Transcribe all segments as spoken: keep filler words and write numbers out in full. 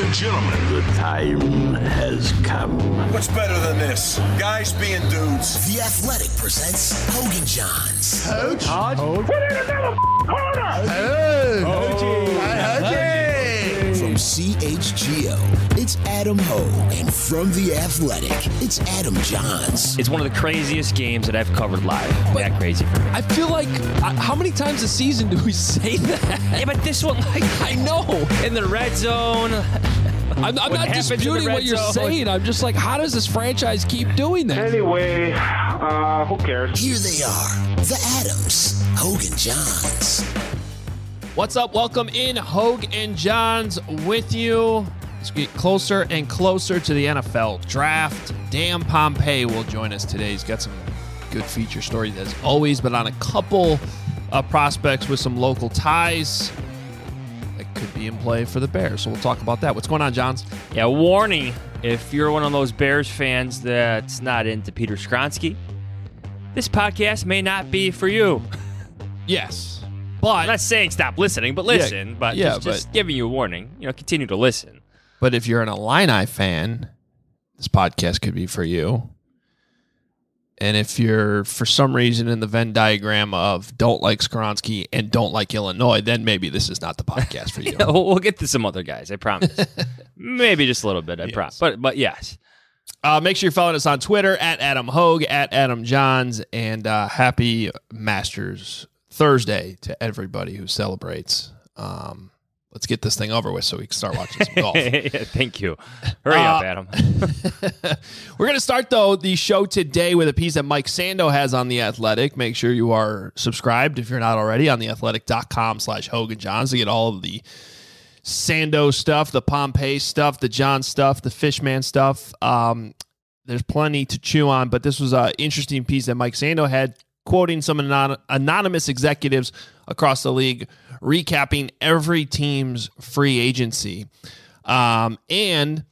and gentlemen, the time has come. What's better than this? Guys being dudes. The Athletic presents Hogan Johns. Coach? Put in another corner! Hey! From C H G O, it's Adam Hogue. And from The Athletic, it's Adam Johns. It's one of the craziest games that I've covered live. But that crazy for me. I feel like, uh, how many times a season do we say that? Yeah, but this one, like, I know. in the red zone. I'm, I'm not disputing what you're zone. saying. I'm just like, how does this franchise keep doing that? Anyway, uh, who cares? Here they are, the Adams, Hogue and Johns. What's up? Welcome in, Hogue and Johns with you. Let's get closer and closer to the N F L draft. Dan Pompei will join us today. He's got some good feature stories as always, but on a couple of prospects with some local ties that could be in play for the Bears. So we'll talk about that. What's going on, Johns? Yeah, warning, if you're one of those Bears fans that's not into Peter Skronsky, this podcast may not be for you. Yes. But I'm not saying stop listening, but listen. Yeah, but yeah, just, just but, giving you a warning. You know, continue to listen. But if you're an Illini fan, this podcast could be for you. And if you're, for some reason, in the Venn diagram of don't like Skronsky and don't like Illinois, then maybe this is not the podcast for you. Yeah, we'll, we'll get to some other guys, I promise. Maybe just a little bit, I Yes. promise. But, but yes. Uh, make sure you're following us on Twitter, at Adam Hogue, at Adam Johns, and uh, happy Masters Thursday to everybody who celebrates. Um, let's get this thing over with so we can start watching some golf. Yeah, thank you. Hurry Uh, up, Adam. We're going to start, though, the show today with a piece that Mike Sando has on The Athletic. Make sure you are subscribed, if you're not already, on theathletic.com slash Hogan Johns to get all of the Sando stuff, the Pompei stuff, the John stuff, the Fishman stuff. Um, there's plenty to chew on, but this was an interesting piece that Mike Sando had, quoting some anon- anonymous executives across the league, recapping every team's free agency. Um, and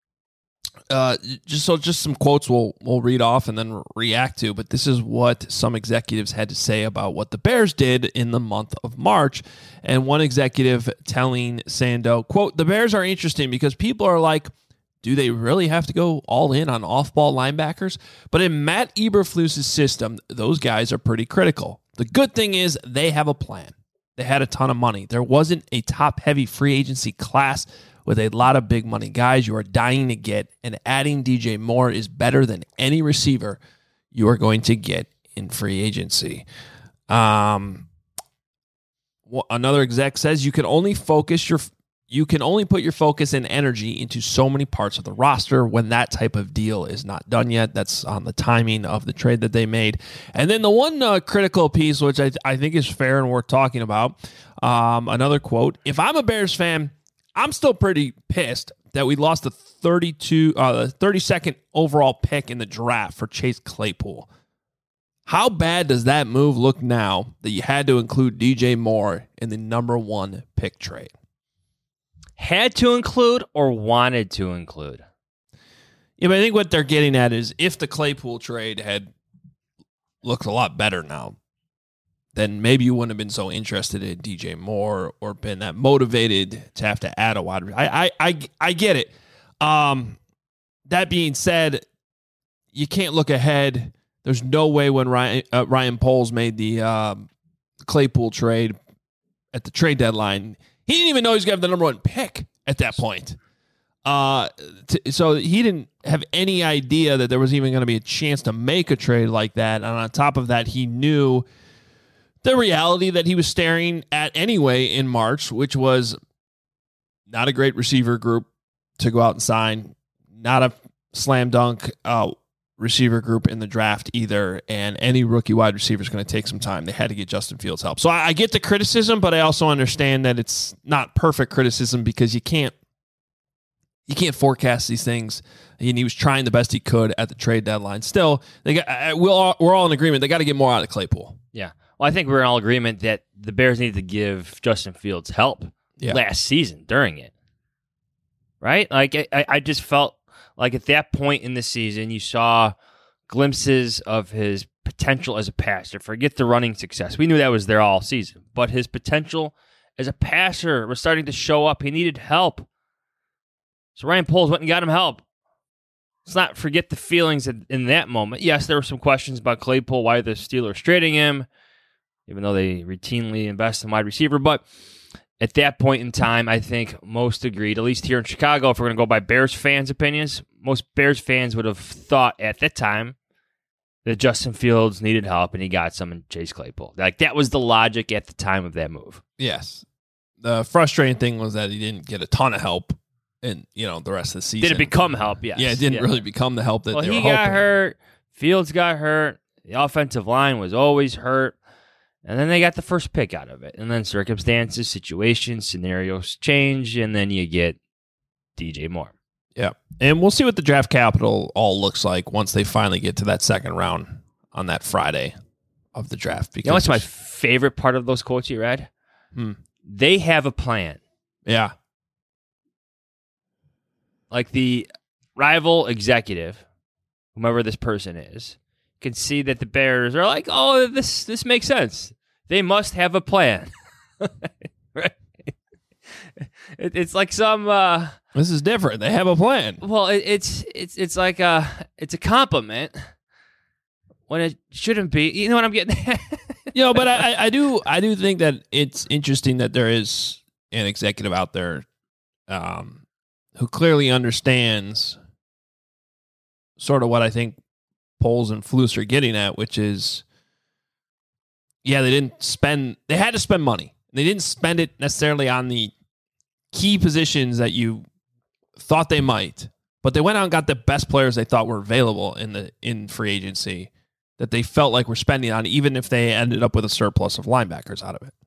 uh, just so just some quotes we'll we'll read off and then react to. But this is what some executives had to say about what the Bears did in the month of March. And one executive telling Sando, quote, "The Bears are interesting because people are like, do they really have to go all in on off-ball linebackers? But in Matt Eberflus's system, those guys are pretty critical. The good thing is they have a plan. They had a ton of money. There wasn't a top-heavy free agency class with a lot of big money guys you are dying to get, and adding D J Moore is better than any receiver you are going to get in free agency." Um, well, another exec says you can only focus your You can only put your focus and energy into so many parts of the roster when that type of deal is not done yet. That's on the timing of the trade that they made. And then the one uh, critical piece, which I, I think is fair and worth talking about, um, another quote, "If I'm a Bears fan, I'm still pretty pissed that we lost the thirty-two, uh, the thirty-second overall pick in the draft for Chase Claypool. How bad does that move look now that you had to include D J Moore in the number one pick trade?" Had to include or wanted to include? Yeah, but I think what they're getting at is if the Claypool trade had looked a lot better now, then maybe you wouldn't have been so interested in D J Moore or been that motivated to have to add a wide receiver. I, I, I, I get it. Um, that being said, you can't look ahead. There's no way when Ryan, uh, Ryan Poles made the um, Claypool trade at the trade deadline, he didn't even know he was going to have the number one pick at that point. Uh, t- so he didn't have any idea that there was even going to be a chance to make a trade like that. And on top of that, he knew the reality that he was staring at anyway in March, which was not a great receiver group to go out and sign, not a slam dunk uh, receiver group in the draft either, and any rookie wide receiver is going to take some time. They had to get Justin Fields help. So I, I get the criticism, but I also understand that it's not perfect criticism because you can't you can't forecast these things. And he was trying the best he could at the trade deadline. Still, they got we'll all, we're all in agreement. They got to get more out of Claypool. Yeah. Well, I think we're in all agreement that the Bears need to give Justin Fields help yeah. last season during it. Right? Like I, I just felt like at that point in the season, you saw glimpses of his potential as a passer. Forget the running success. We knew that was there all season. But his potential as a passer was starting to show up. He needed help. So Ryan Poles went and got him help. Let's not forget the feelings in, in that moment. Yes, there were some questions about Claypool, why the Steelers trading him, even though they routinely invest in wide receiver. But at that point in time, I think most agreed, at least here in Chicago, if we're going to go by Bears fans' opinions, most Bears fans would have thought at that time that Justin Fields needed help and he got some in Chase Claypool. Like, that was the logic at the time of that move. Yes. The frustrating thing was that he didn't get a ton of help in, you know, the rest of the season. Did it become help? Yes. Yeah, it didn't yeah. really become the help that well, they were he hoping. got hurt. Fields got hurt. The offensive line was always hurt. And then they got the first pick out of it. And then circumstances, situations, scenarios change, and then you get D J Moore. Yeah. And we'll see what the draft capital all looks like once they finally get to that second round on that Friday of the draft. Because you know what's my favorite part of those quotes you read? Hmm. They have a plan. Yeah. Like the rival executive, whomever this person is, can see that the Bears are like, oh, this this makes sense. They must have a plan. Right? It, it's like some. Uh, this is different. They have a plan. Well, it, it's it's it's like a it's a compliment when it shouldn't be. You know what I'm getting at? You know, but I, I do I do think that it's interesting that there is an executive out there um, who clearly understands sort of what I think Poles and Flus are getting at, which is, yeah, they didn't spend, they had to spend money. They didn't spend it necessarily on the key positions that you thought they might, but they went out and got the best players they thought were available in the in free agency that they felt like were spending on, even if they ended up with a surplus of linebackers out of it.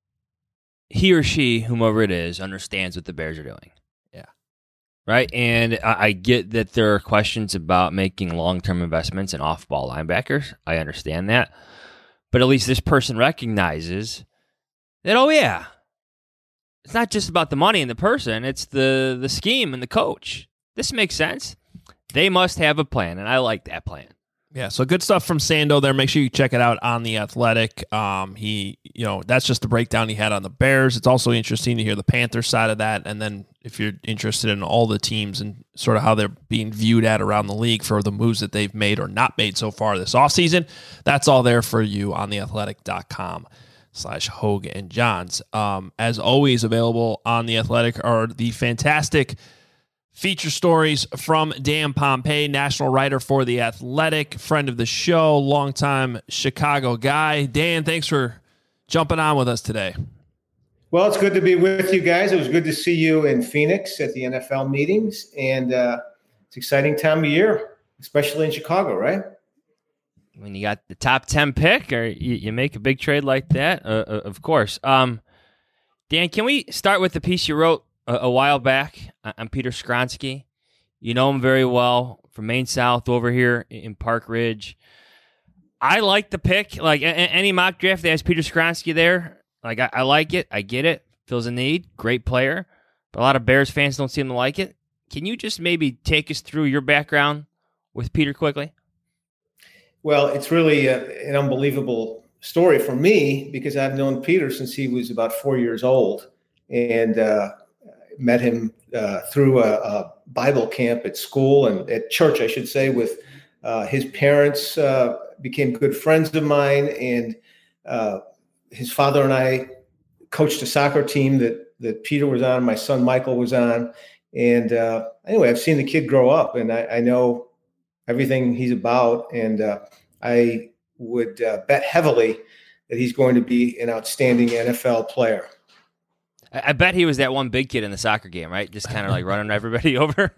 He or she, whomever it is, understands what the Bears are doing. Yeah. Right? And I, I get that there are questions about making long-term investments in off-ball linebackers. I understand that. But at least this person recognizes that, oh, yeah, it's not just about the money and the person. It's the, the scheme and the coach. This makes sense. They must have a plan, and I like that plan. Yeah, so good stuff from Sando there. Make sure you check it out on The Athletic. Um, he, you know, that's just the breakdown he had on the Bears. It's also interesting to hear the Panthers side of that. And then if you're interested in all the teams and sort of how they're being viewed at around the league for the moves that they've made or not made so far this offseason, that's all there for you on theathletic.com slash Hogue and Johns. Um, as always, available on The Athletic are the fantastic feature stories from Dan Pompei, national writer for The Athletic, friend of the show, longtime Chicago guy. Dan, thanks for jumping on with us today. Well, it's good to be with you guys. It was good to see you in Phoenix at the N F L meetings, and uh, it's an exciting time of year, especially in Chicago, right? When you got the top ten pick, or you, you make a big trade like that, uh, uh, of course. Um, Dan, can we start with the piece you wrote a, a while back on Peter Skronsky? You know him very well from Maine South over here in Park Ridge. I like the pick. Like a, any mock draft that has Peter Skronsky there, like I, I like it. I get it. Fills a need. Great player. But a lot of Bears fans don't seem to like it. Can you just maybe take us through your background with Peter quickly? Well, it's really a, an unbelievable story for me because I've known Peter since he was about four years old and uh, met him uh, through a, a Bible camp at school and at church, I should say, with uh, his parents uh, became good friends of mine. And uh, his father and I coached a soccer team that, that Peter was on, my son Michael was on. And uh, anyway, I've seen the kid grow up and I, I know everything he's about. And uh, I would uh, bet heavily that he's going to be an outstanding N F L player. I, I bet he was that one big kid in the soccer game, right? Just kind of like running everybody over.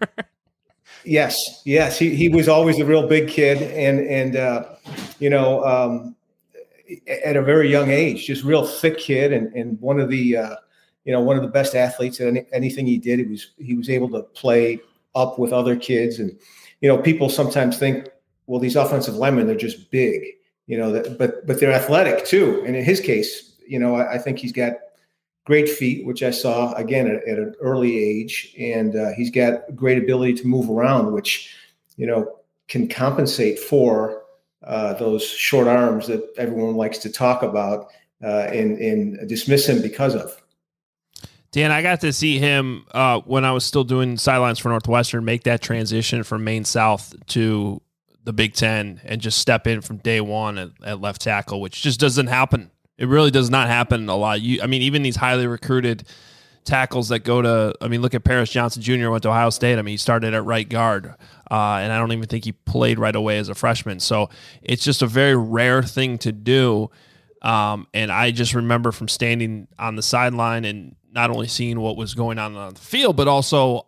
Yes. Yes. He, he was always a real big kid. And, and uh, you know, um, at a very young age, just real thick kid. And, and one of the, uh, you know, one of the best athletes at any, anything he did. He was, he was able to play up with other kids. And, you know, people sometimes think, well, these offensive linemen, they're just big, you know, that, but but they're athletic too. And in his case, you know, I, I think he's got great feet, which I saw, again, at, at an early age. And uh, he's got great ability to move around, which, you know, can compensate for uh, those short arms that everyone likes to talk about uh, and, and dismiss him because of. Dan, I got to see him uh, when I was still doing sidelines for Northwestern make that transition from Maine South to the Big Ten and just step in from day one at, at left tackle, which just doesn't happen. It really does not happen a lot. You, I mean, even these highly recruited tackles that go to, I mean, look at Paris Johnson Junior went to Ohio State. I mean, he started at right guard, uh, and I don't even think he played right away as a freshman. So it's just a very rare thing to do. Um, and I just remember from standing on the sideline and not only seeing what was going on on the field, but also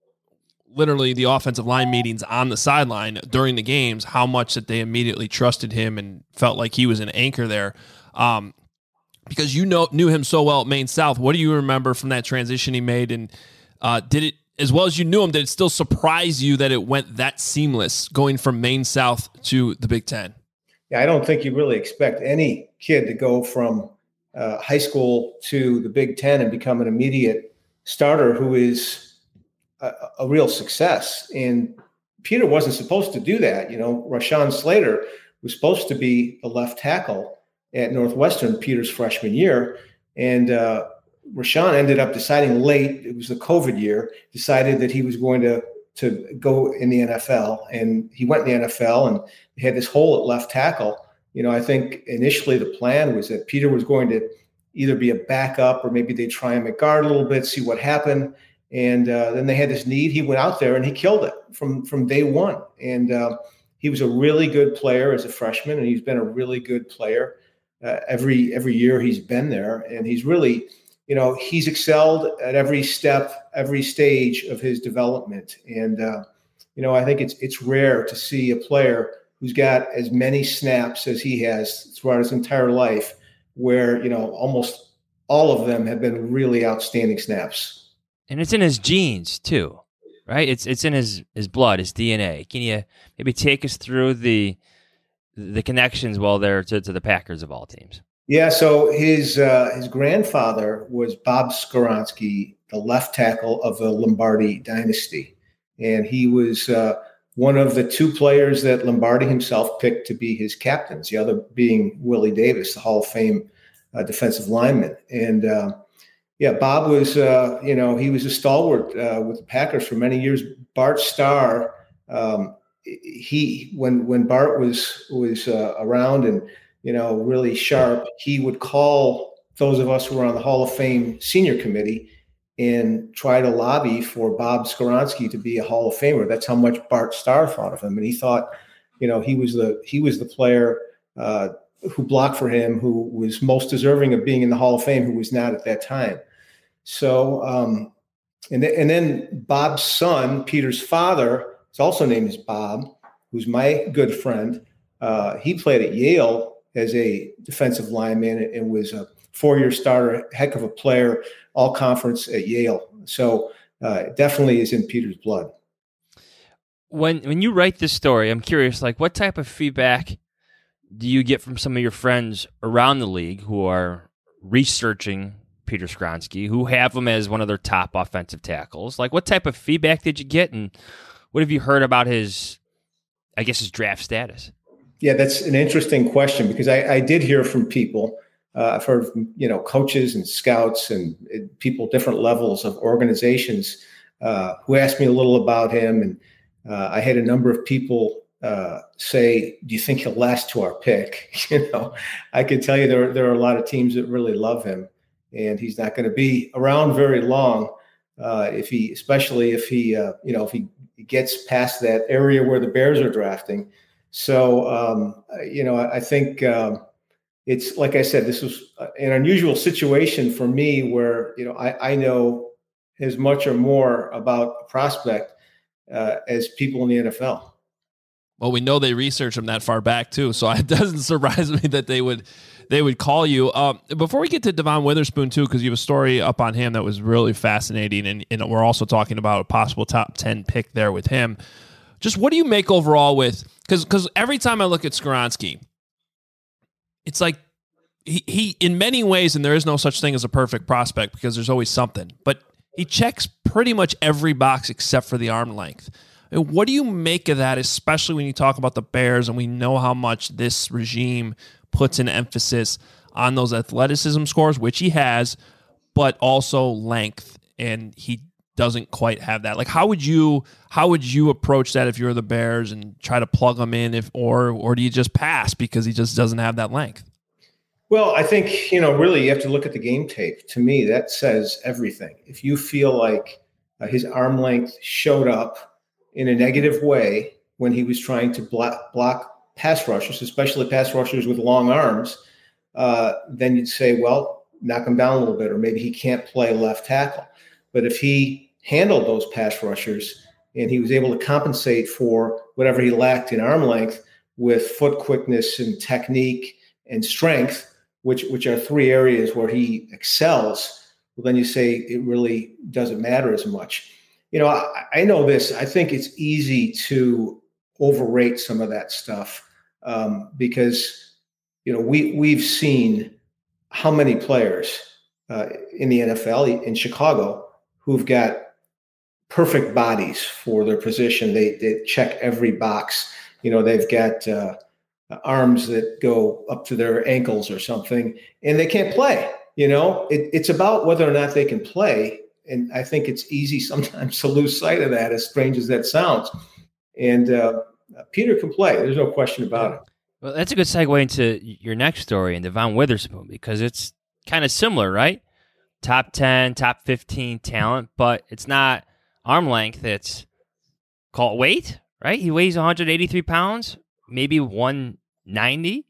literally the offensive line meetings on the sideline during the games, how much that they immediately trusted him and felt like he was an anchor there. Um, because you know knew him so well at Maine South. What do you remember from that transition he made? And uh, did it, as well as you knew him, did it still surprise you that it went that seamless going from Maine South to the Big Ten? Yeah, I don't think you really expect any kid to go from uh, high school to the Big Ten and become an immediate starter who is a, a real success. And Peter wasn't supposed to do that. You know, Rashawn Slater was supposed to be a left tackle at Northwestern Peter's freshman year. And uh, Rashawn ended up deciding late, it was the COVID year, decided that he was going to, to go in the N F L. And he went in the N F L and had this hole at left tackle. You know, I think initially the plan was that Peter was going to either be a backup or maybe they try him at guard a little bit, see what happened. And uh, then they had this need. He went out there and he killed it from, from day one. And uh, he was a really good player as a freshman, and he's been a really good player uh, every every year he's been there. And he's really, you know, he's excelled at every step, every stage of his development. And, uh, you know, I think it's it's rare to see a player who's got as many snaps as he has throughout his entire life, where, you know, almost all of them have been really outstanding snaps. And it's in his genes too, right? It's it's in his, his blood, his D N A. Can you maybe take us through the the connections while they're to, to the Packers of all teams? Yeah, so his uh, his grandfather was Bob Skoronski, the left tackle of the Lombardi dynasty. And he was uh, one of the two players that Lombardi himself picked to be his captains, the other being Willie Davis, the Hall of Fame uh, defensive lineman. And, uh, yeah, Bob was, uh, you know, he was a stalwart uh, with the Packers for many years. Bart Starr, um, he when when Bart was was uh, around and, you know, really sharp, he would call those of us who were on the Hall of Fame senior committee and try to lobby for Bob Skoronski to be a Hall of Famer. That's how much Bart Starr thought of him. And he thought, you know, he was the he was the player uh, who blocked for him, who was most deserving of being in the Hall of Fame, who was not at that time. So, um, and, th- and then Bob's son, Peter's father, is also named as Bob, who's my good friend. Uh, he played at Yale as a defensive lineman and was a four-year starter, heck of a player, all conference at Yale. So uh, it definitely is in Peter's blood. When when you write this story, I'm curious, like, what type of feedback do you get from some of your friends around the league who are researching Peter Skoronski, who have him as one of their top offensive tackles? Like, what type of feedback did you get, and what have you heard about his, I guess, his draft status? Yeah, that's an interesting question, because I, I did hear from people. Uh, I've heard from, you know, coaches and scouts and, and people, different levels of organizations uh, who asked me a little about him. And uh, I had a number of people uh, say, do you think he'll last to our pick? You know, I can tell you there, there are a lot of teams that really love him, and he's not going to be around very long uh, if he, especially if he, uh, you know, if he gets past that area where the Bears are drafting. So, um, you know, I, I think um, it's, like I said, this was an unusual situation for me where, you know, I, I know as much or more about a prospect uh, as people in the N F L. Well, we know they research him that far back too, so it doesn't surprise me that they would they would call you. Um, before we get to Devon Witherspoon too, because you have a story up on him that was really fascinating, and, and we're also talking about a possible top ten pick there with him. Just what do you make overall with, because because every time I look at Skoronski, it's like he, he, in many ways, and there is no such thing as a perfect prospect because there's always something, but he checks pretty much every box except for the arm length. And what do you make of that, especially when you talk about the Bears and we know how much this regime puts an emphasis on those athleticism scores, which he has, but also length, and he doesn't quite have that. Like, how would you how would you approach that if you're the Bears and try to plug him in, if or or do you just pass because he just doesn't have that length? Well, I think, you know, really you have to look at the game tape. To me, that says everything. If you feel like uh, his arm length showed up in a negative way when he was trying to block, block pass rushers, especially pass rushers with long arms, uh, then you'd say, well, knock him down a little bit, or maybe he can't play left tackle. But if he handled those pass rushers and he was able to compensate for whatever he lacked in arm length with foot quickness and technique and strength, which which are three areas where he excels, well, then you say it really doesn't matter as much. You know, I, I know this. I think it's easy to overrate some of that stuff um, because, you know, we, we've seen how many players uh, in the N F L, in Chicago, who've got perfect bodies for their position. They, they check every box. You know, they've got uh, arms that go up to their ankles or something, and they can't play. You know, it, it's about whether or not they can play. And I think it's easy sometimes to lose sight of that, as strange as that sounds. And uh, Peter can play. There's no question about it. Well, that's a good segue into your next story, and Devon Witherspoon, because it's kind of similar, right? Top ten, top fifteen talent, but it's not arm length. It's called weight, right? He weighs one hundred eighty-three pounds, maybe one ninety.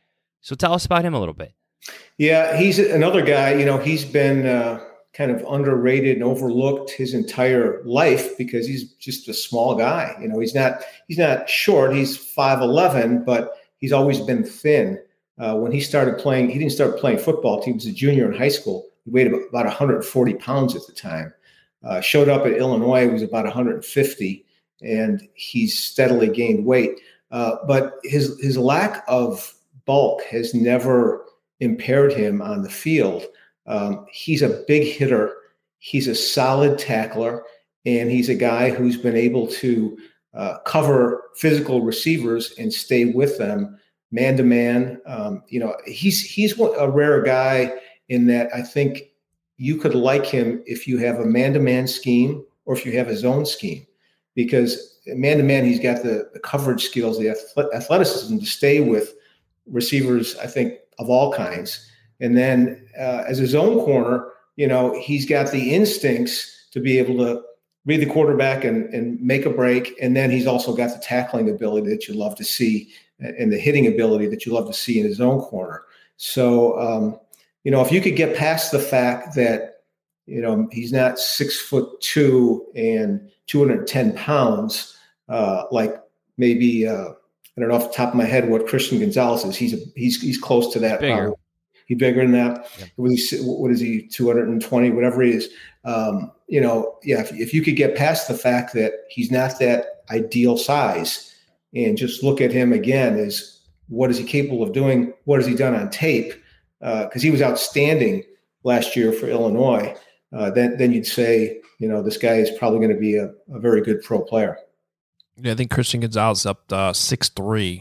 So tell us about him a little bit. Yeah, he's another guy, you know, he's been uh, kind of underrated and overlooked his entire life because he's just a small guy. You know, he's not he's not short. He's five eleven, but he's always been thin. Uh, when he started playing, he didn't start playing football until he was a junior in high school. He weighed about one hundred forty pounds at the time. Uh, showed up at Illinois, he was about one hundred fifty, and he's steadily gained weight. Uh, but his his lack of bulk has never impaired him on the field. Um, he's a big hitter. He's a solid tackler, and he's a guy who's been able to uh, cover physical receivers and stay with them man to man. Um, you know, he's he's a rare guy in that I think you could like him if you have a man-to-man scheme or if you have a zone scheme, because man-to-man, he's got the, the coverage skills, the athleticism to stay with receivers, I think, of all kinds. And then uh, as a zone corner, you know, he's got the instincts to be able to read the quarterback and, and make a break. And then he's also got the tackling ability that you love to see and the hitting ability that you love to see in a zone corner. So, um, you know, if you could get past the fact that, you know, he's not six foot two and two hundred ten pounds, uh, like maybe, uh, I don't know off the top of my head what Christian Gonzalez is. He's a, he's he's close to that. Bigger. Uh, he's bigger than that. Yeah. What is he, what is he? two hundred twenty, whatever he is. Um, you know, yeah. If, if you could get past the fact that he's not that ideal size, and just look at him again as what is he capable of doing? What has he done on tape? Because uh, he was outstanding last year for Illinois. Uh, then then you'd say, you know, this guy is probably going to be a, a very good pro player. Yeah, I think Christian Gonzalez up uh, six three,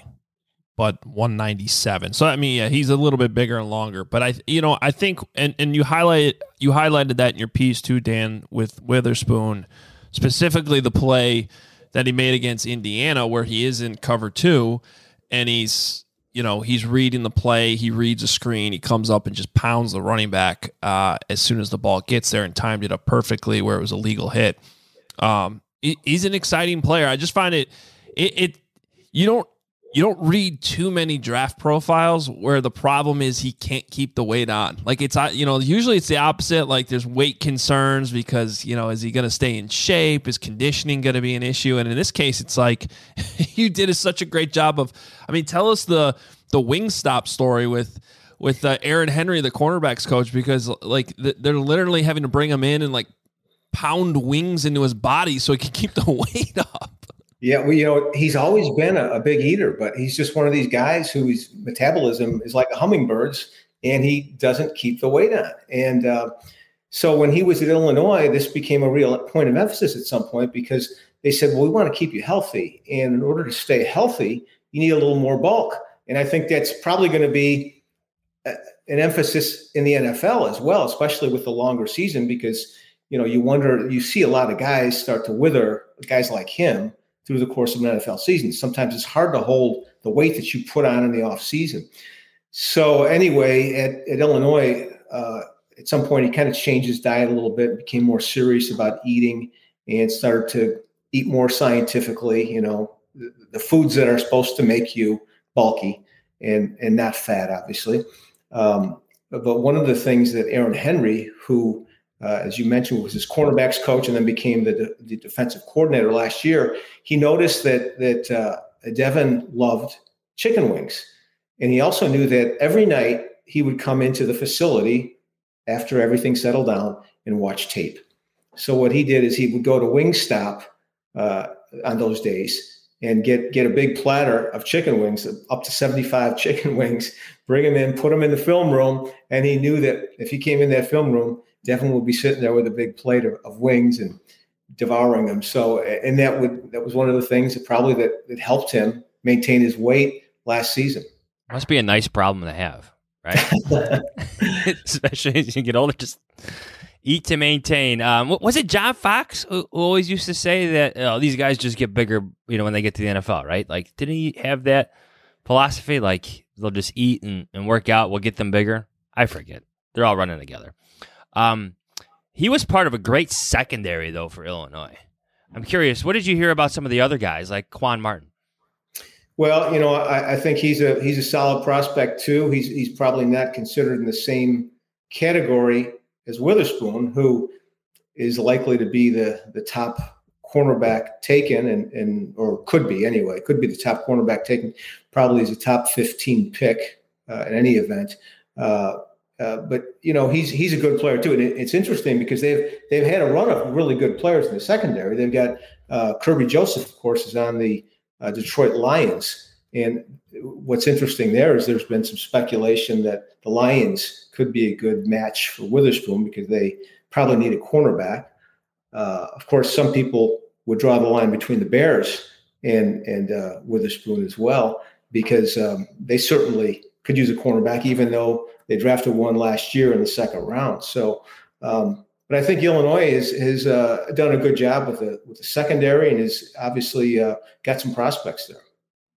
but one ninety-seven. So I mean, yeah, he's a little bit bigger and longer. But I, you know, I think, and and you highlight you highlighted that in your piece too, Dan, with Witherspoon, specifically the play that he made against Indiana, where he is in cover two, and he's, you know, he's reading the play, he reads a screen, he comes up and just pounds the running back uh, as soon as the ball gets there, and timed it up perfectly where it was a legal hit. Um, He's an exciting player. I just find it, it, it, you don't, you don't read too many draft profiles where the problem is he can't keep the weight on. Like it's, you know, usually it's the opposite. Like there's weight concerns because, you know, is he going to stay in shape? Is conditioning going to be an issue? And in this case, it's like you did a, such a great job of, I mean, tell us the, the Wingstop story with, with uh, Aaron Henry, the cornerbacks coach, because like they're literally having to bring him in and like pound wings into his body so he can keep the weight up. Yeah, well, you know, he's always been a, a big eater, but he's just one of these guys whose metabolism is like a hummingbird's, and he doesn't keep the weight on. And uh, so when he was at Illinois, this became a real point of emphasis at some point because they said, well, we want to keep you healthy. And in order to stay healthy, you need a little more bulk. And I think that's probably going to be an emphasis in the N F L as well, especially with the longer season, because, you know, you wonder, you see a lot of guys start to wither, guys like him, through the course of an N F L season. Sometimes it's hard to hold the weight that you put on in the off season. So anyway, at, at Illinois, uh, at some point he kind of changed his diet a little bit, became more serious about eating, and started to eat more scientifically, you know, the, the foods that are supposed to make you bulky and, and not fat, obviously. Um, but one of the things that Aaron Henry, who, uh, as you mentioned, was his cornerbacks coach and then became the, de- the defensive coordinator last year, he noticed that, that uh, Devin loved chicken wings. And he also knew that every night he would come into the facility after everything settled down and watch tape. So what he did is he would go to Wingstop uh, on those days and get, get a big platter of chicken wings, up to seventy-five chicken wings, bring them in, put them in the film room. And he knew that if he came in that film room, Devin would be sitting there with a big plate of, of wings and devouring them. So, and that would, that was one of the things that probably that, that helped him maintain his weight last season. Must be a nice problem to have, right? Especially as you get older, just eat to maintain. Um, was it John Fox who always used to say that oh, these guys just get bigger, you know, when they get to the N F L, right? Like, didn't he have that philosophy? Like, they'll just eat and, and work out, we'll get them bigger? I forget. They're all running together. Um, he was part of a great secondary, though, for Illinois. I'm curious, what did you hear about some of the other guys, like Quan Martin? Well, you know, I, I think he's a he's a solid prospect too. He's he's probably not considered in the same category as Witherspoon, who is likely to be the the top cornerback taken, and and or could be anyway, could be the top cornerback taken. Probably is a top fifteen pick uh, in any event. Uh, uh, but you know, he's he's a good player too, and it, it's interesting because they've they've had a run of really good players in the secondary. They've got uh, Kirby Joseph, of course, is on the Uh, Detroit Lions. And what's interesting there is there's been some speculation that the Lions could be a good match for Witherspoon because they probably need a cornerback. Uh, of course, some people would draw the line between the Bears and, and uh, Witherspoon as well, because um, they certainly could use a cornerback, even though they drafted one last year in the second round. So, um, But I think Illinois has, has uh, done a good job with the with the secondary and has obviously uh, got some prospects there.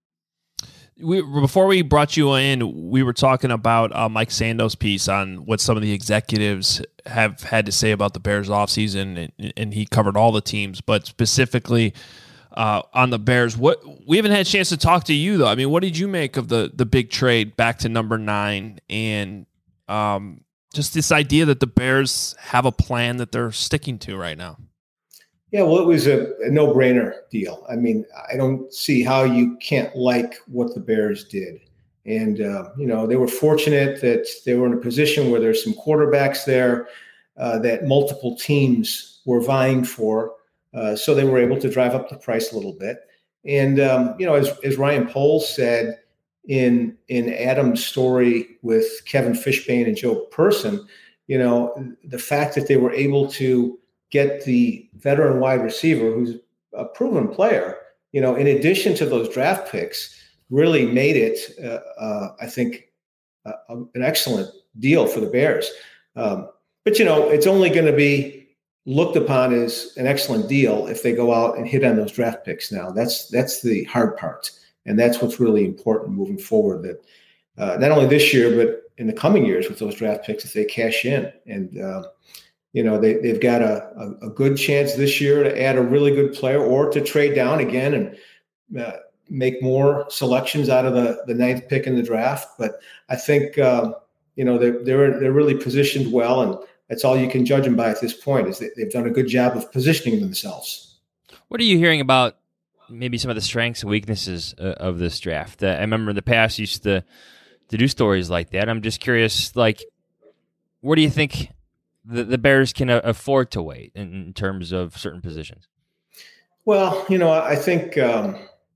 We, before we brought you in, we were talking about uh, Mike Sando's piece on what some of the executives have had to say about the Bears offseason, and, and he covered all the teams, but specifically uh, on the Bears. What we haven't had a chance to talk to you, though. I mean, what did you make of the the big trade back to number nine and um, – just this idea that the Bears have a plan that they're sticking to right now? Yeah, well, it was a, a no-brainer deal. I mean, I don't see how you can't like what the Bears did. And, uh, you know, they were fortunate that they were in a position where there's some quarterbacks there uh, that multiple teams were vying for. Uh, so they were able to drive up the price a little bit. And, um, you know, as, as Ryan Poles said, in in Adam's story with Kevin Fishbane and Joe Person, you know, the fact that they were able to get the veteran wide receiver who's a proven player, you know, in addition to those draft picks, really made it, uh, uh, I think, uh, an excellent deal for the Bears. Um, but, you know, it's only going to be looked upon as an excellent deal if they go out and hit on those draft picks now. That's that's the hard part. And that's what's really important moving forward, that uh, not only this year, but in the coming years with those draft picks, if they cash in. And, uh, you know, they, they've got a, a, a good chance this year to add a really good player or to trade down again and uh, make more selections out of the, the ninth pick in the draft. But I think, uh, you know, they're, they're, they're really positioned well. And that's all you can judge them by at this point, is that they've done a good job of positioning themselves. What are you hearing about maybe some of the strengths and weaknesses uh, of this draft? Uh, I remember in the past you used to, to do stories like that. I'm just curious, like, where do you think the, the Bears can uh, afford to wait in, in terms of certain positions? Well, you know, I think um,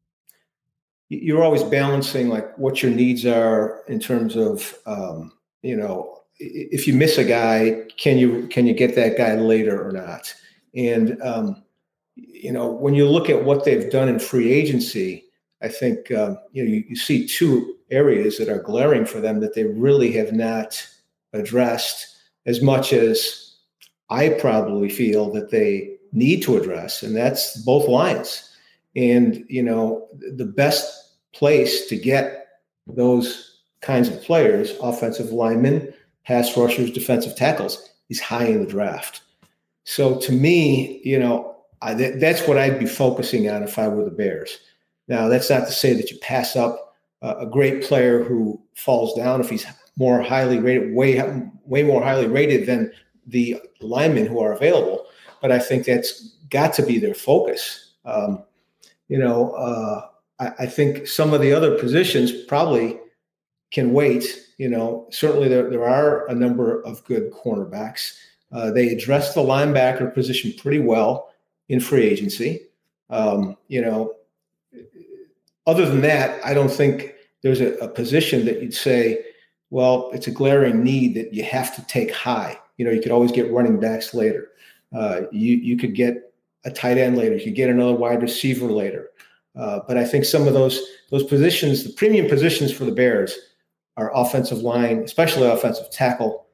you're always balancing like what your needs are in terms of, um, you know, if you miss a guy, can you can you get that guy later or not? And um, you know, when you look at what they've done in free agency, I think, um, you know, you, you see two areas that are glaring for them that they really have not addressed as much as I probably feel that they need to address, and that's both lines. And, you know, the best place to get those kinds of players, offensive linemen, pass rushers, defensive tackles, is high in the draft. So to me, you know, I, th- that's what I'd be focusing on if I were the Bears. Now, that's not to say that you pass up uh, a great player who falls down if he's more highly rated, way, way more highly rated than the linemen who are available. But I think that's got to be their focus. Um, you know, uh, I, I think some of the other positions probably can wait. You know, certainly there, there are a number of good cornerbacks. Uh, they addressed the linebacker position pretty well in free agency. Um, you know, other than that, I don't think there's a, a position that you'd say, well, it's a glaring need that you have to take high. You know, you could always get running backs later. Uh, you you could get a tight end later. You could get another wide receiver later. Uh, but I think some of those those positions, the premium positions for the Bears, are offensive line, especially offensive tackle,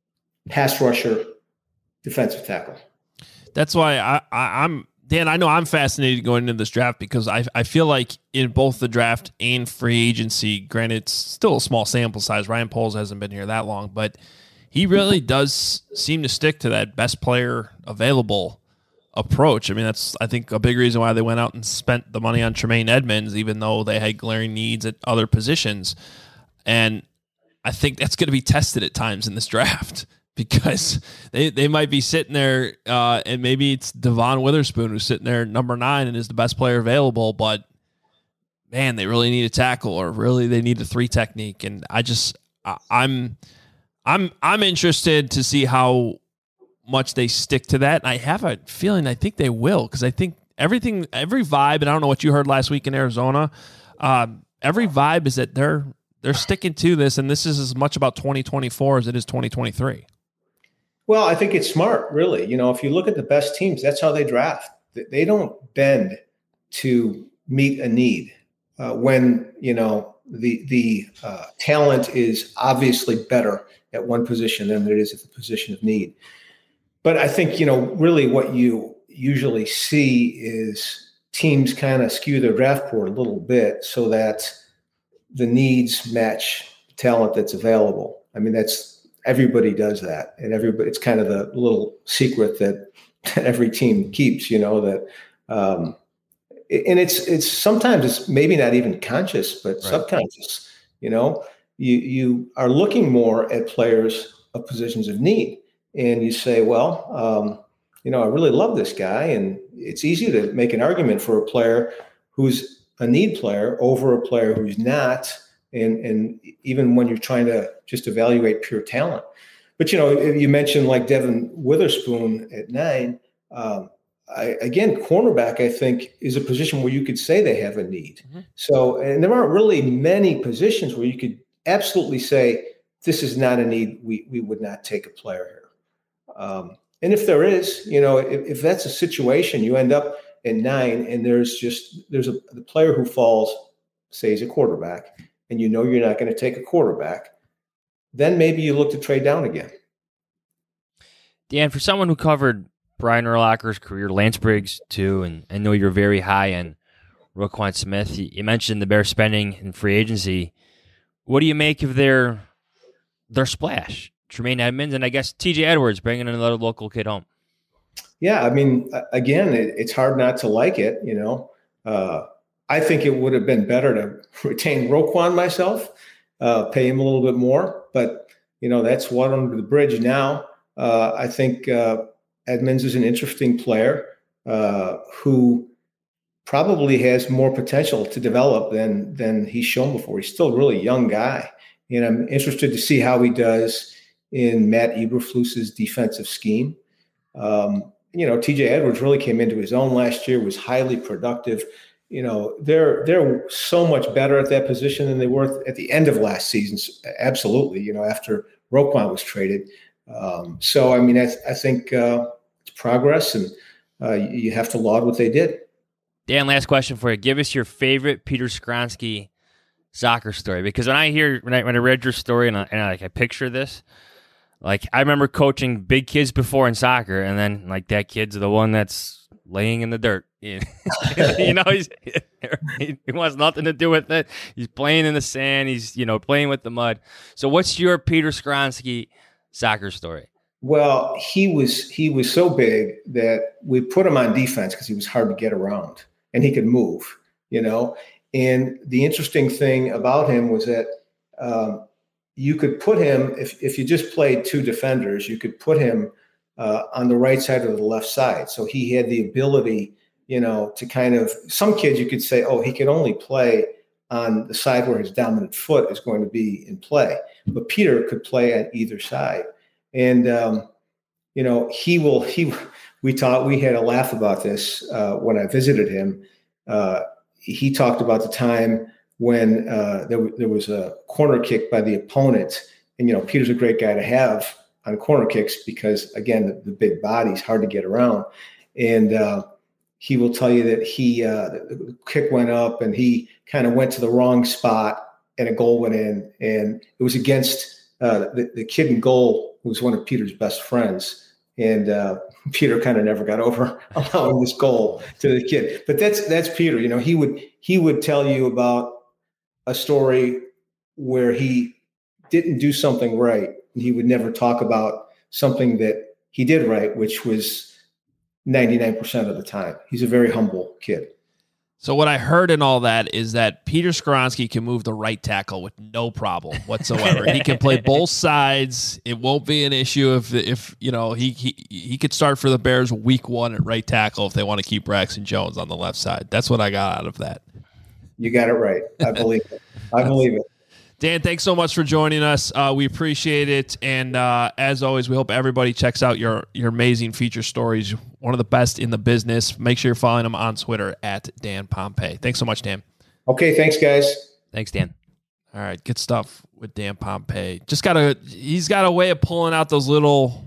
pass rusher, defensive tackle. That's why I, I, I'm Dan. I know I'm fascinated going into this draft because I I feel like in both the draft and free agency, granted it's still a small sample size. Ryan Poles hasn't been here that long, but he really does seem to stick to that best player available approach. I mean, that's I think a big reason why they went out and spent the money on Tremaine Edmonds, even though they had glaring needs at other positions. And I think that's going to be tested at times in this draft. Because they, they might be sitting there, uh, and maybe it's Devon Witherspoon who's sitting there number nine and is the best player available, but man, they really need a tackle, or really they need a three technique. And I just, I, I'm, I'm, I'm interested to see how much they stick to that. And I have a feeling I think they will, because I think everything, every vibe, and I don't know what you heard last week in Arizona. Um, every vibe is that they're they're sticking to this, and this is as much about twenty twenty-four as it is twenty twenty-three. Well, I think it's smart, really. You know, if you look at the best teams, that's how they draft. They don't bend to meet a need uh, when, you know, the the uh, talent is obviously better at one position than it is at the position of need. But I think, you know, really what you usually see is teams kind of skew their draft board a little bit so that the needs match the talent that's available. I mean, that's everybody does that, and everybody, it's kind of the little secret that, that every team keeps, you know, that, um, and it's, it's sometimes it's maybe not even conscious, but right. subconscious, you know, you, you are looking more at players of positions of need, and you say, well, um, you know, I really love this guy, and it's easy to make an argument for a player who's a need player over a player who's not. And and even when you're trying to just evaluate pure talent. But, you know, you mentioned like Devon Witherspoon at nine. Um, I, again, cornerback, I think, is a position where you could say they have a need. Mm-hmm. So, and there aren't really many positions where you could absolutely say, this is not a need. We we would not take a player here. Um, and if there is, you know, if, if that's a situation, you end up at nine and there's just, there's a the player who falls, say he's a quarterback, and you know you're not going to take a quarterback, then maybe you look to trade down again. Dan, for someone who covered Brian Urlacher's career, Lance Briggs too, and I know you're very high on Roquan Smith. You mentioned the Bears spending in free agency. What do you make of their their splash? Tremaine Edmonds and I guess T J Edwards bringing another local kid home. Yeah, I mean, again, it, it's hard not to like it, you know. Uh, I think it would have been better to retain Roquan myself, uh, pay him a little bit more. But, you know, that's water under the bridge now. Uh, I think uh, Edmonds is an interesting player uh, who probably has more potential to develop than than he's shown before. He's still a really young guy. And I'm interested to see how he does in Matt Eberflus's defensive scheme. Um, you know, T J Edwards really came into his own last year, was highly productive. You know, they're they're so much better at that position than they were at the end of last season. Absolutely, you know, after Roquan was traded. Um, so, I mean, I, th- I think uh, it's progress, and uh, you have to laud what they did. Dan, last question for you. Give us your favorite Peter Skronsky soccer story, because when I hear when I when I read your story and I, and I, like I picture this, like I remember coaching big kids before in soccer, and then like that kid's the one that's laying in the dirt. You know, he's, he wants nothing to do with it. He's playing in the sand. He's you know playing with the mud. So, what's your Peter Skoronski soccer story? Well, he was he was so big that we put him on defense because he was hard to get around and he could move. You know. And the interesting thing about him was that um, you could put him, if, if you just played two defenders, you could put him uh, on the right side or the left side. So he had the ability, you know, to kind of, some kids you could say, oh, he could only play on the side where his dominant foot is going to be in play. But Peter could play on either side. And, um, you know, he will, he, we taught, we had a laugh about this uh, when I visited him. Uh, He talked about the time when uh, there, there was a corner kick by the opponent. And, you know, Peter's a great guy to have on corner kicks because, again, the, the big body's hard to get around. And uh, he will tell you that he uh, the kick went up and he kind of went to the wrong spot and a goal went in. And it was against uh, the, the kid in goal, who was one of Peter's best friends. And uh, Peter kind of never got over allowing this goal to the kid. But that's that's Peter. You know, he would he would tell you about a story where he didn't do something right. He would never talk about something that he did right, which was ninety-nine percent of the time. He's a very humble kid. So what I heard in all that is that Peter Skoronski can move the right tackle with no problem whatsoever. He can play both sides. It won't be an issue if, if you know, he, he he could start for the Bears week one at right tackle if they want to keep Braxton Jones on the left side. That's what I got out of that. You got it right. I believe it. I believe it. Dan, thanks so much for joining us. Uh, we appreciate it. And uh, as always, we hope everybody checks out your, your amazing feature stories. One of the best in the business. Make sure you're following him on Twitter at Dan Pompei. Thanks so much, Dan. Okay, thanks, guys. Thanks, Dan. All right, good stuff with Dan Pompei. Just got a he's got a way of pulling out those little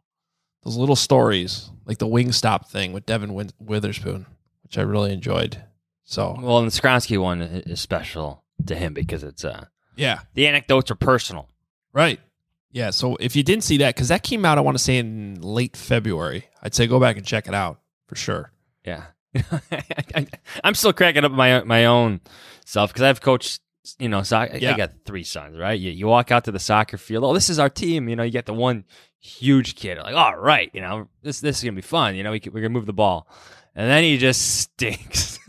those little stories, like the Wingstop thing with Devin Win- Witherspoon, which I really enjoyed. So well, and the Skoronski one is special to him because it's uh yeah, the anecdotes are personal, right? Yeah. So if you didn't see that, because that came out, I want to say in late February, I'd say go back and check it out for sure. Yeah, I'm still cracking up my my own self because I've coached. You know, so I, yeah. I got three sons, right? You, you walk out to the soccer field. Oh, this is our team. You know, you get the one huge kid. Like, all right, you know, this this is gonna be fun. You know, we can, we're gonna move the ball, and then he just stinks.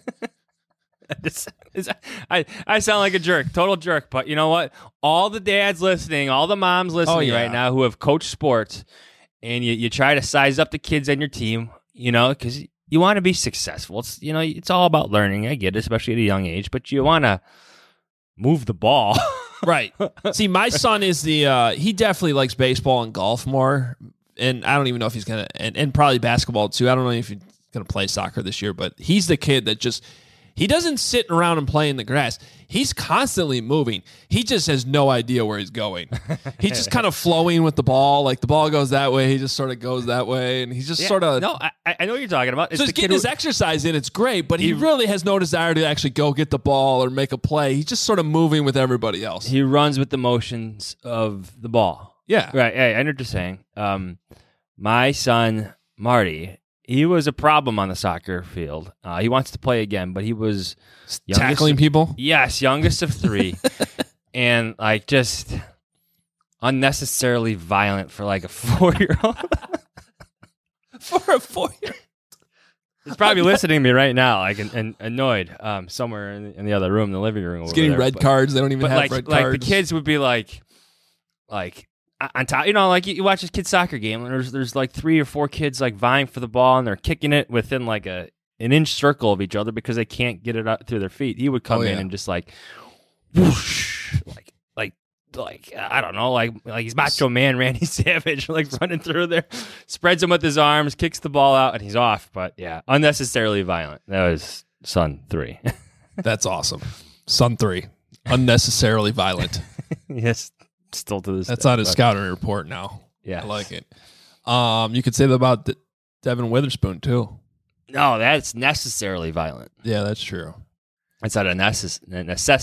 It's, it's, I, I sound like a jerk, total jerk. But you know what? All the dads listening, all the moms listening oh, yeah. right now who have coached sports, and you, you try to size up the kids on your team, you know, because you want to be successful. It's you know, it's all about learning. I get it, especially at a young age. But you want to move the ball. Right. See, my son is the, uh, he definitely likes baseball and golf more. And I don't even know if he's going to, and, and probably basketball too. I don't know if he's going to play soccer this year, but he's the kid that just, he doesn't sit around and play in the grass. He's constantly moving. He just has no idea where he's going. He's just kind of flowing with the ball. Like the ball goes that way, he just sort of goes that way, and he's just Yeah, sort of. No, I, I know what you're talking about. It's So the he's kid getting who- his exercise in. It's great, but he, He- really has no desire to actually go get the ball or make a play. He's just sort of moving with everybody else. He runs with the motions of the ball. Yeah. Right. Hey, I know what you're saying. Um, my son, Marty, he was a problem on the soccer field. Uh, he wants to play again, but he was youngest Tackling of- people. Yes, youngest of three. And like just unnecessarily violent for like a four-year-old. For a four-year. He's probably listening to me right now, like and, and annoyed, um, somewhere in the, in the other room, the living room. He's over getting there. red But- cards. They don't even But have like, red like cards. the kids would be like, like on top, you know, like you, you watch this kid's soccer game, and there's there's like three or four kids like vying for the ball, and they're kicking it within like a an inch circle of each other because they can't get it up through their feet. He would come Oh, in yeah. and just like, whoosh, like like like I don't know, like like he's Macho Man Randy Savage, like running through there, spreads him with his arms, kicks the ball out, and he's off. But yeah, unnecessarily violent. That was son three. That's awesome. Son three. Unnecessarily violent. Yes, still to this. That's day, on his but- scouting report now. Yeah, I like it. Um, you could say that about De- Devin Witherspoon too. No, that's necessarily violent. Yeah, that's true. It's not a, necess- a necessity.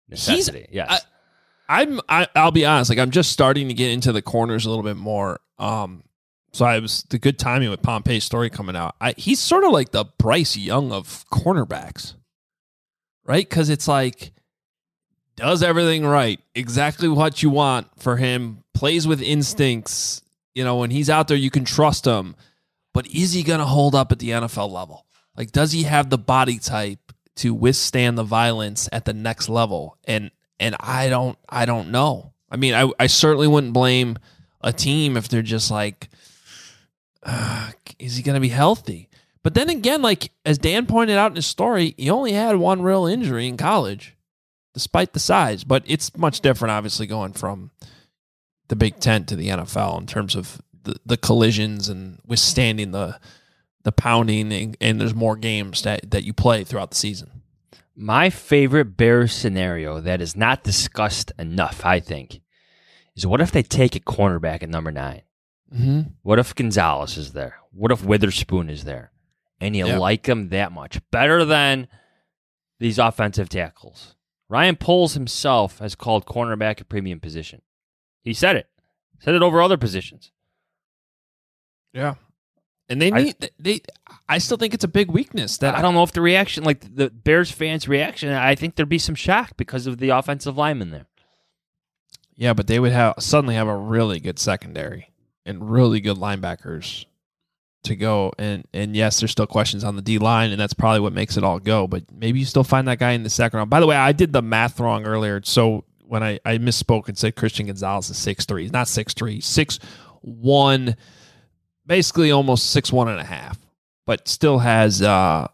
necessity. He's, yes. I, I'm. I, I'll be honest. Like I'm just starting to get into the corners a little bit more. Um, so I was the good timing with Pompey's story coming out. I, he's sort of like the Bryce Young of cornerbacks, right? Because it's like does everything right, exactly what you want for him. Plays with instincts. You know, when he's out there, you can trust him. But is he going to hold up at the N F L level? Like, does he have the body type to withstand the violence at the next level? And and I don't I don't know. I mean, I, I certainly wouldn't blame a team if they're just like, uh, is he going to be healthy? But then again, like as Dan pointed out in his story, he only had one real injury in college, despite the size. But it's much different, obviously, going from the Big Ten to the N F L in terms of the, the collisions and withstanding the the pounding, and, and there's more games that, that you play throughout the season. My favorite Bears scenario that is not discussed enough, I think, is what if they take a cornerback at number nine? Mm-hmm. What if Gonzalez is there? What if Witherspoon is there? And you Yep. like him that much. Better than these offensive tackles. Ryan Poles himself has called cornerback a premium position. He said it. Said it over other positions. Yeah. And they I- need they I still think it's a big weakness that I don't know if the reaction, like the Bears fans' reaction, I think there'd be some shock because of the offensive lineman there. Yeah, but they would have suddenly have a really good secondary and really good linebackers to go. And and yes, there's still questions on the D line, and that's probably what makes it all go. But maybe you still find that guy in the second round. By the way, I did the math wrong earlier. So when I, I misspoke and said Christian Gonzalez is six three, he's not six three, six one, basically almost six one and a half, but still has uh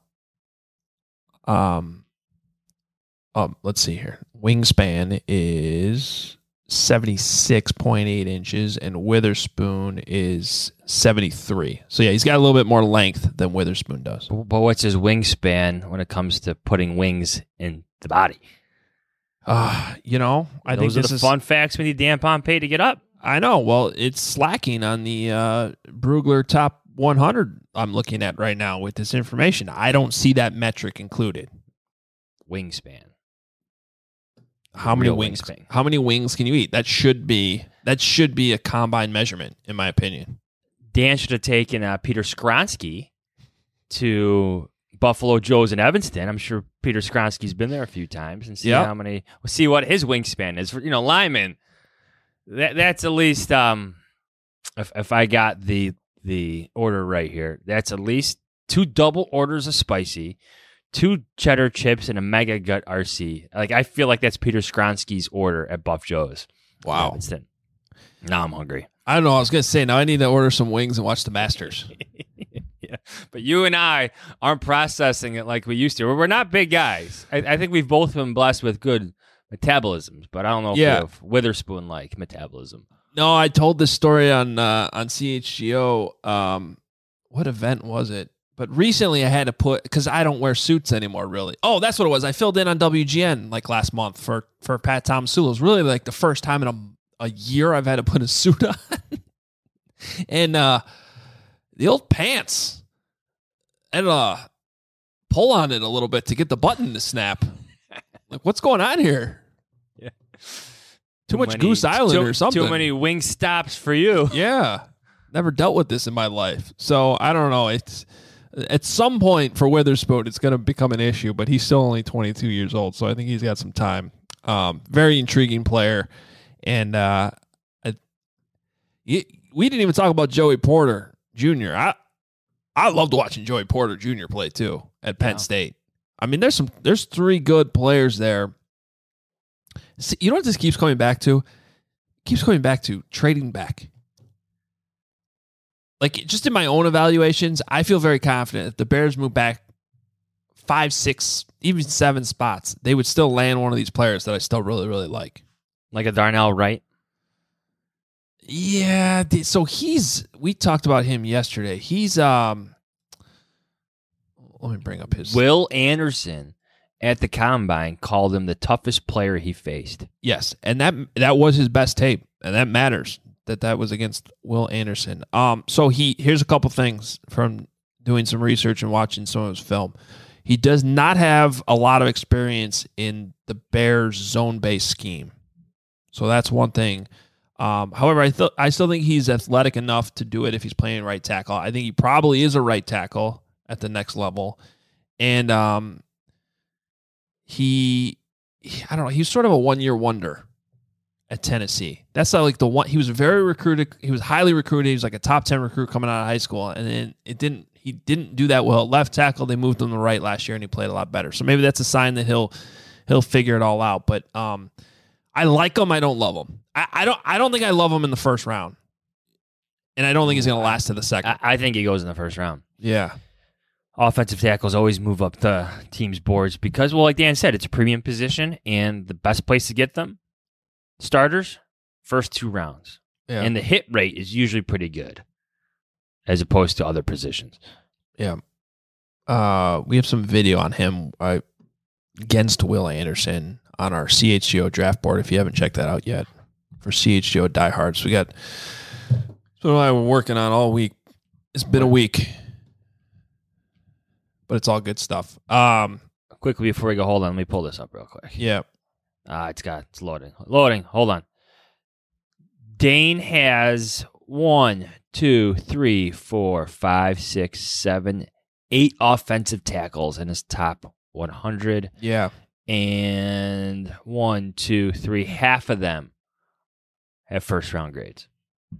um um let's see here. Wingspan is seventy-six point eight inches, and Witherspoon is seventy-three. So yeah, he's got a little bit more length than Witherspoon does. But what's his wingspan when it comes to putting wings in the body? Uh, you know, I Those think are this the is fun facts we need Dan Pompey to get up. I know. Well, it's slacking on the uh, Brugler top one hundred I'm looking at right now with this information. I don't see that metric included. Wingspan. How many Real wings? wingspan. How many wings can you eat? That should be that should be a combine measurement, in my opinion. Dan should have taken uh, Peter Skronsky to Buffalo Joe's in Evanston. I'm sure Peter Skronsky's been there a few times and see Yep. how many. We'll see what his wingspan is. For, you know, lineman. That that's at least um, if if I got the the order right here, that's at least two double orders of spicy, two cheddar chips, and a mega gut R C. Like I feel like that's Peter Skronsky's order at Buff Joe's. in Wow. Evanston. Now I'm hungry. I don't know. I was gonna say now I need to order some wings and watch the Masters. Yeah, but you and I aren't processing it like we used to. We're not big guys. I, I think we've both been blessed with good metabolisms, but I don't know if Yeah. we have Witherspoon-like metabolism. No, I told this story on uh, on C H G O. Um, what event was it? But recently I had to put, because I don't wear suits anymore, really. Oh, that's what it was. I filled in on W G N like last month for, for Pat Tomsula. It was really like the first time in a, a year I've had to put a suit on. and uh, the old pants, I had to uh, pull on it a little bit to get the button to snap. Like, what's going on here? Yeah. Too, much many- Goose Island too, or something. Too many wing stops for you. Yeah. Never dealt with this in my life. So I don't know. It's at some point for Witherspoon, it's going to become an issue, but he's still only twenty-two years old. So I think he's got some time. Um, very intriguing player. And uh, I, we didn't even talk about Joey Porter Junior I, I loved watching Joey Porter Junior play too at Penn Yeah. State. I mean, there's some, there's three good players there. See, you know what this keeps coming back to? It keeps coming back to trading back. Like, just in my own evaluations, I feel very confident if the Bears move back five, six, even seven spots, they would still land one of these players that I still really, really like. Like a Darnell Wright. Yeah, th- so he's, we talked about him yesterday. He's, um, let me bring up his. Will Anderson at the Combine called him the toughest player he faced. Yes, and that that was his best tape, and that matters that that was against Will Anderson. Um, so he here's a couple things from doing some research and watching some of his film. He does not have a lot of experience in the Bears zone-based scheme. So that's one thing. Um, however, I, th- I still think he's athletic enough to do it if he's playing right tackle. I think he probably is a right tackle at the next level. And um, he, I don't know, he was sort of a one-year wonder at Tennessee. That's not like the one. He was very recruited. He was highly recruited. He was like a top ten recruit coming out of high school. And then it didn't, he didn't do that well at left tackle. They moved him to right last year and he played a lot better. So maybe that's a sign that he'll, he'll figure it all out. But um, I like him. I don't love him. I, I don't, I don't think I love him in the first round. And I don't think he's going to last to the second. I, I think he goes in the first round. Yeah. Offensive tackles always move up the team's boards because, well, like Dan said, it's a premium position and the best place to get them, starters, first two rounds. Yeah. And the hit rate is usually pretty good as opposed to other positions. Yeah. Uh, we have some video on him uh, against Will Anderson on our C H G O draft board if you haven't checked that out yet for C H G O diehards. We got, that's what I've been working on all week. It's been a week, but it's all good stuff. Um, Quickly before we go, hold on, let me pull this up real quick. Yeah. Uh, it's got, it's loading. Loading, hold on. Dane has one, two, three, four, five, six, seven, eight offensive tackles in his top one hundred. Yeah. And one, two, three, half of them have first round grades.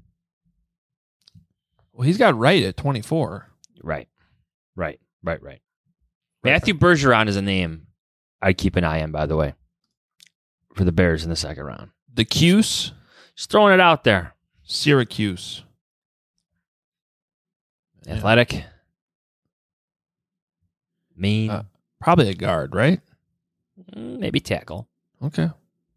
Well, he's got right at twenty-four. Right, right, right, right. Matthew Bergeron is a name I keep an eye on, by the way, for the Bears in the second round. The Cuse, Just throwing it out there. Syracuse. Athletic. Yeah. Mean. Uh, probably a guard, right? Maybe tackle. Okay.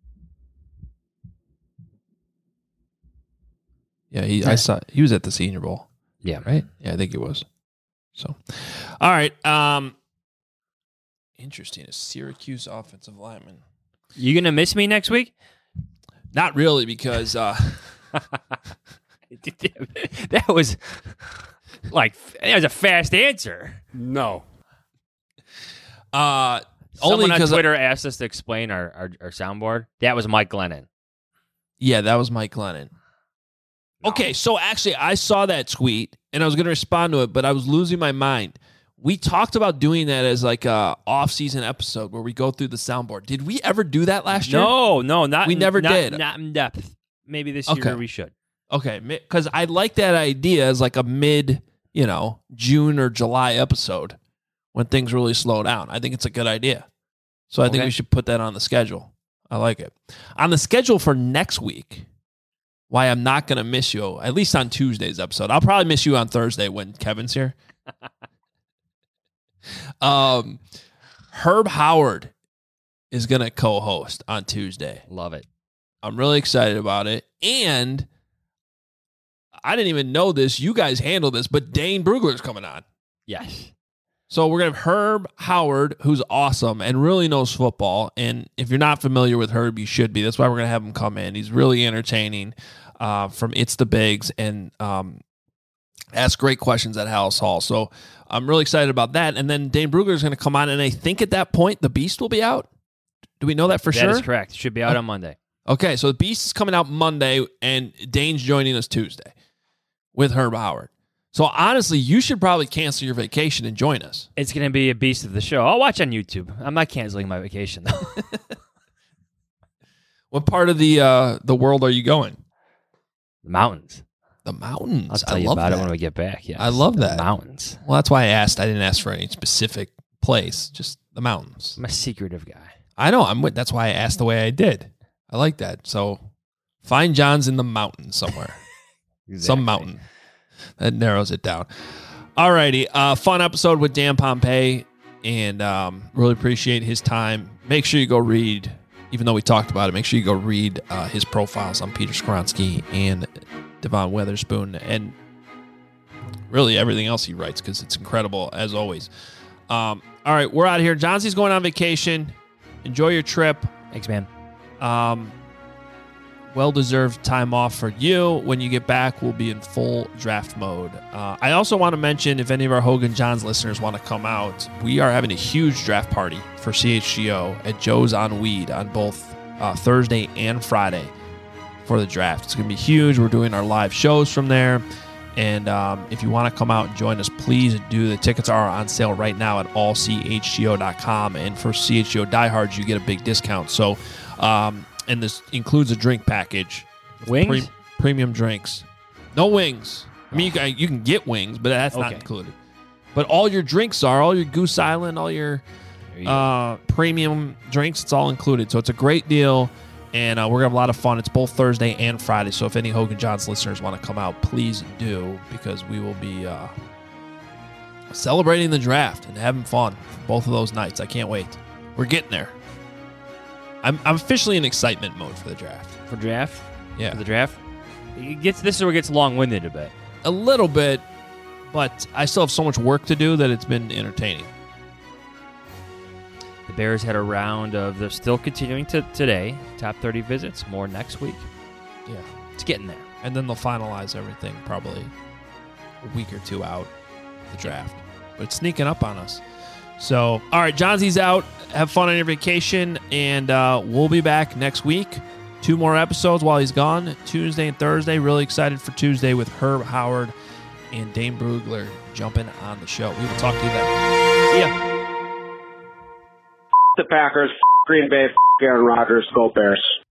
Yeah, he. I saw he was at the Senior Bowl. Yeah. Right. Yeah, I think he was. So, all right. Um, interesting. A Syracuse offensive lineman. You gonna miss me next week? Not really, because uh, that was like that was a fast answer. No. Uh, Someone only on because Twitter asked us to explain our, our, our soundboard. That was Mike Glennon. Yeah, that was Mike Glennon. No. Okay, so actually, I saw that tweet and I was going to respond to it, but I was losing my mind. We talked about doing that as like a off-season episode where we go through the soundboard. Did we ever do that last year? No, no, not we in, never not, did. Not in depth. Maybe this okay. year we should. Okay, because I like that idea as like a mid, you know, June or July episode when things really slow down. I think it's a good idea. So I okay. think we should put that on the schedule. I like it. On the schedule for next week, why I'm not going to miss you, at least on Tuesday's episode. I'll probably miss you on Thursday when Kevin's here. um, Herb Howard is going to co-host on Tuesday. Love it. I'm really excited about it. And I didn't even know this. You guys handle this, but Dane Brugler's coming on. Yes. So we're going to have Herb Howard, who's awesome and really knows football. And if you're not familiar with Herb, you should be. That's why we're going to have him come in. He's really entertaining uh, from It's the Bigs and um, ask great questions at House Hall. So I'm really excited about that. And then Dane Brugler is going to come on. And I think at that point, the Beast will be out. Do we know that for that sure? That is correct. It should be out on Monday. Okay, so the Beast is coming out Monday, and Dane's joining us Tuesday with Herb Howard. So honestly, you should probably cancel your vacation and join us. It's going to be a beast of the show. I'll watch on YouTube. I'm not canceling my vacation, though. What part of the uh, the world are you going? The mountains. The mountains. I'll tell I you love about that. it when we get back. Yes. I love that. The mountains. Well, that's why I asked. I didn't ask for any specific place, just the mountains. I'm a secretive guy. I know. I'm. With, that's why I asked the way I did. I like that. So find John's in the mountains somewhere. Exactly. Some mountain. That narrows it down. All righty. Uh, fun episode with Dan Pompei, and um, really appreciate his time. Make sure you go read, even though we talked about it, make sure you go read uh, his profiles on Peter Skoronsky and Devon Weatherspoon and really everything else he writes because it's incredible, as always. Um, all right. We're out of here. Johnson's going on vacation. Enjoy your trip. Thanks, man. Um, well-deserved time off for you. When you get back, we'll be in full draft mode. Uh, I also want to mention, if any of our Hogan Johns listeners want to come out, we are having a huge draft party for C H G O at Joe's on Weed on both uh, Thursday and Friday for the draft. It's going to be huge. We're doing our live shows from there. And um, if you want to come out and join us, please do. The tickets are on sale right now at all c h g o dot com. And for C H G O diehards, you get a big discount. So, um, and this includes a drink package. Wings? Pre- premium drinks. No wings. I mean, you can, you can get wings, but that's not Okay. included. But all your drinks are, all your Goose Island, all your There you uh, premium drinks, it's all included. So it's a great deal. And uh, we're going to have a lot of fun. It's both Thursday and Friday. So if any Hogan Johns listeners want to come out, please do, because we will be uh, celebrating the draft and having fun both of those nights. I can't wait. We're getting there. I'm, I'm officially in excitement mode for the draft. For draft? Yeah. For the draft? It gets, this is where it gets long-winded a bit. A little bit, but I still have so much work to do that it's been entertaining. The Bears had a round of, they're still continuing to today, top thirty visits, more next week. Yeah. It's getting there. And then they'll finalize everything probably a week or two out the draft. But it's sneaking up on us. So, all right, Johnsy's out. Have fun on your vacation, and uh, we'll be back next week. Two more episodes while he's gone, Tuesday and Thursday. Really excited for Tuesday with Herb Howard and Dane Brugler jumping on the show. We will talk to you then. See ya. The Packers, Green Bay, Aaron Rodgers, go Bears.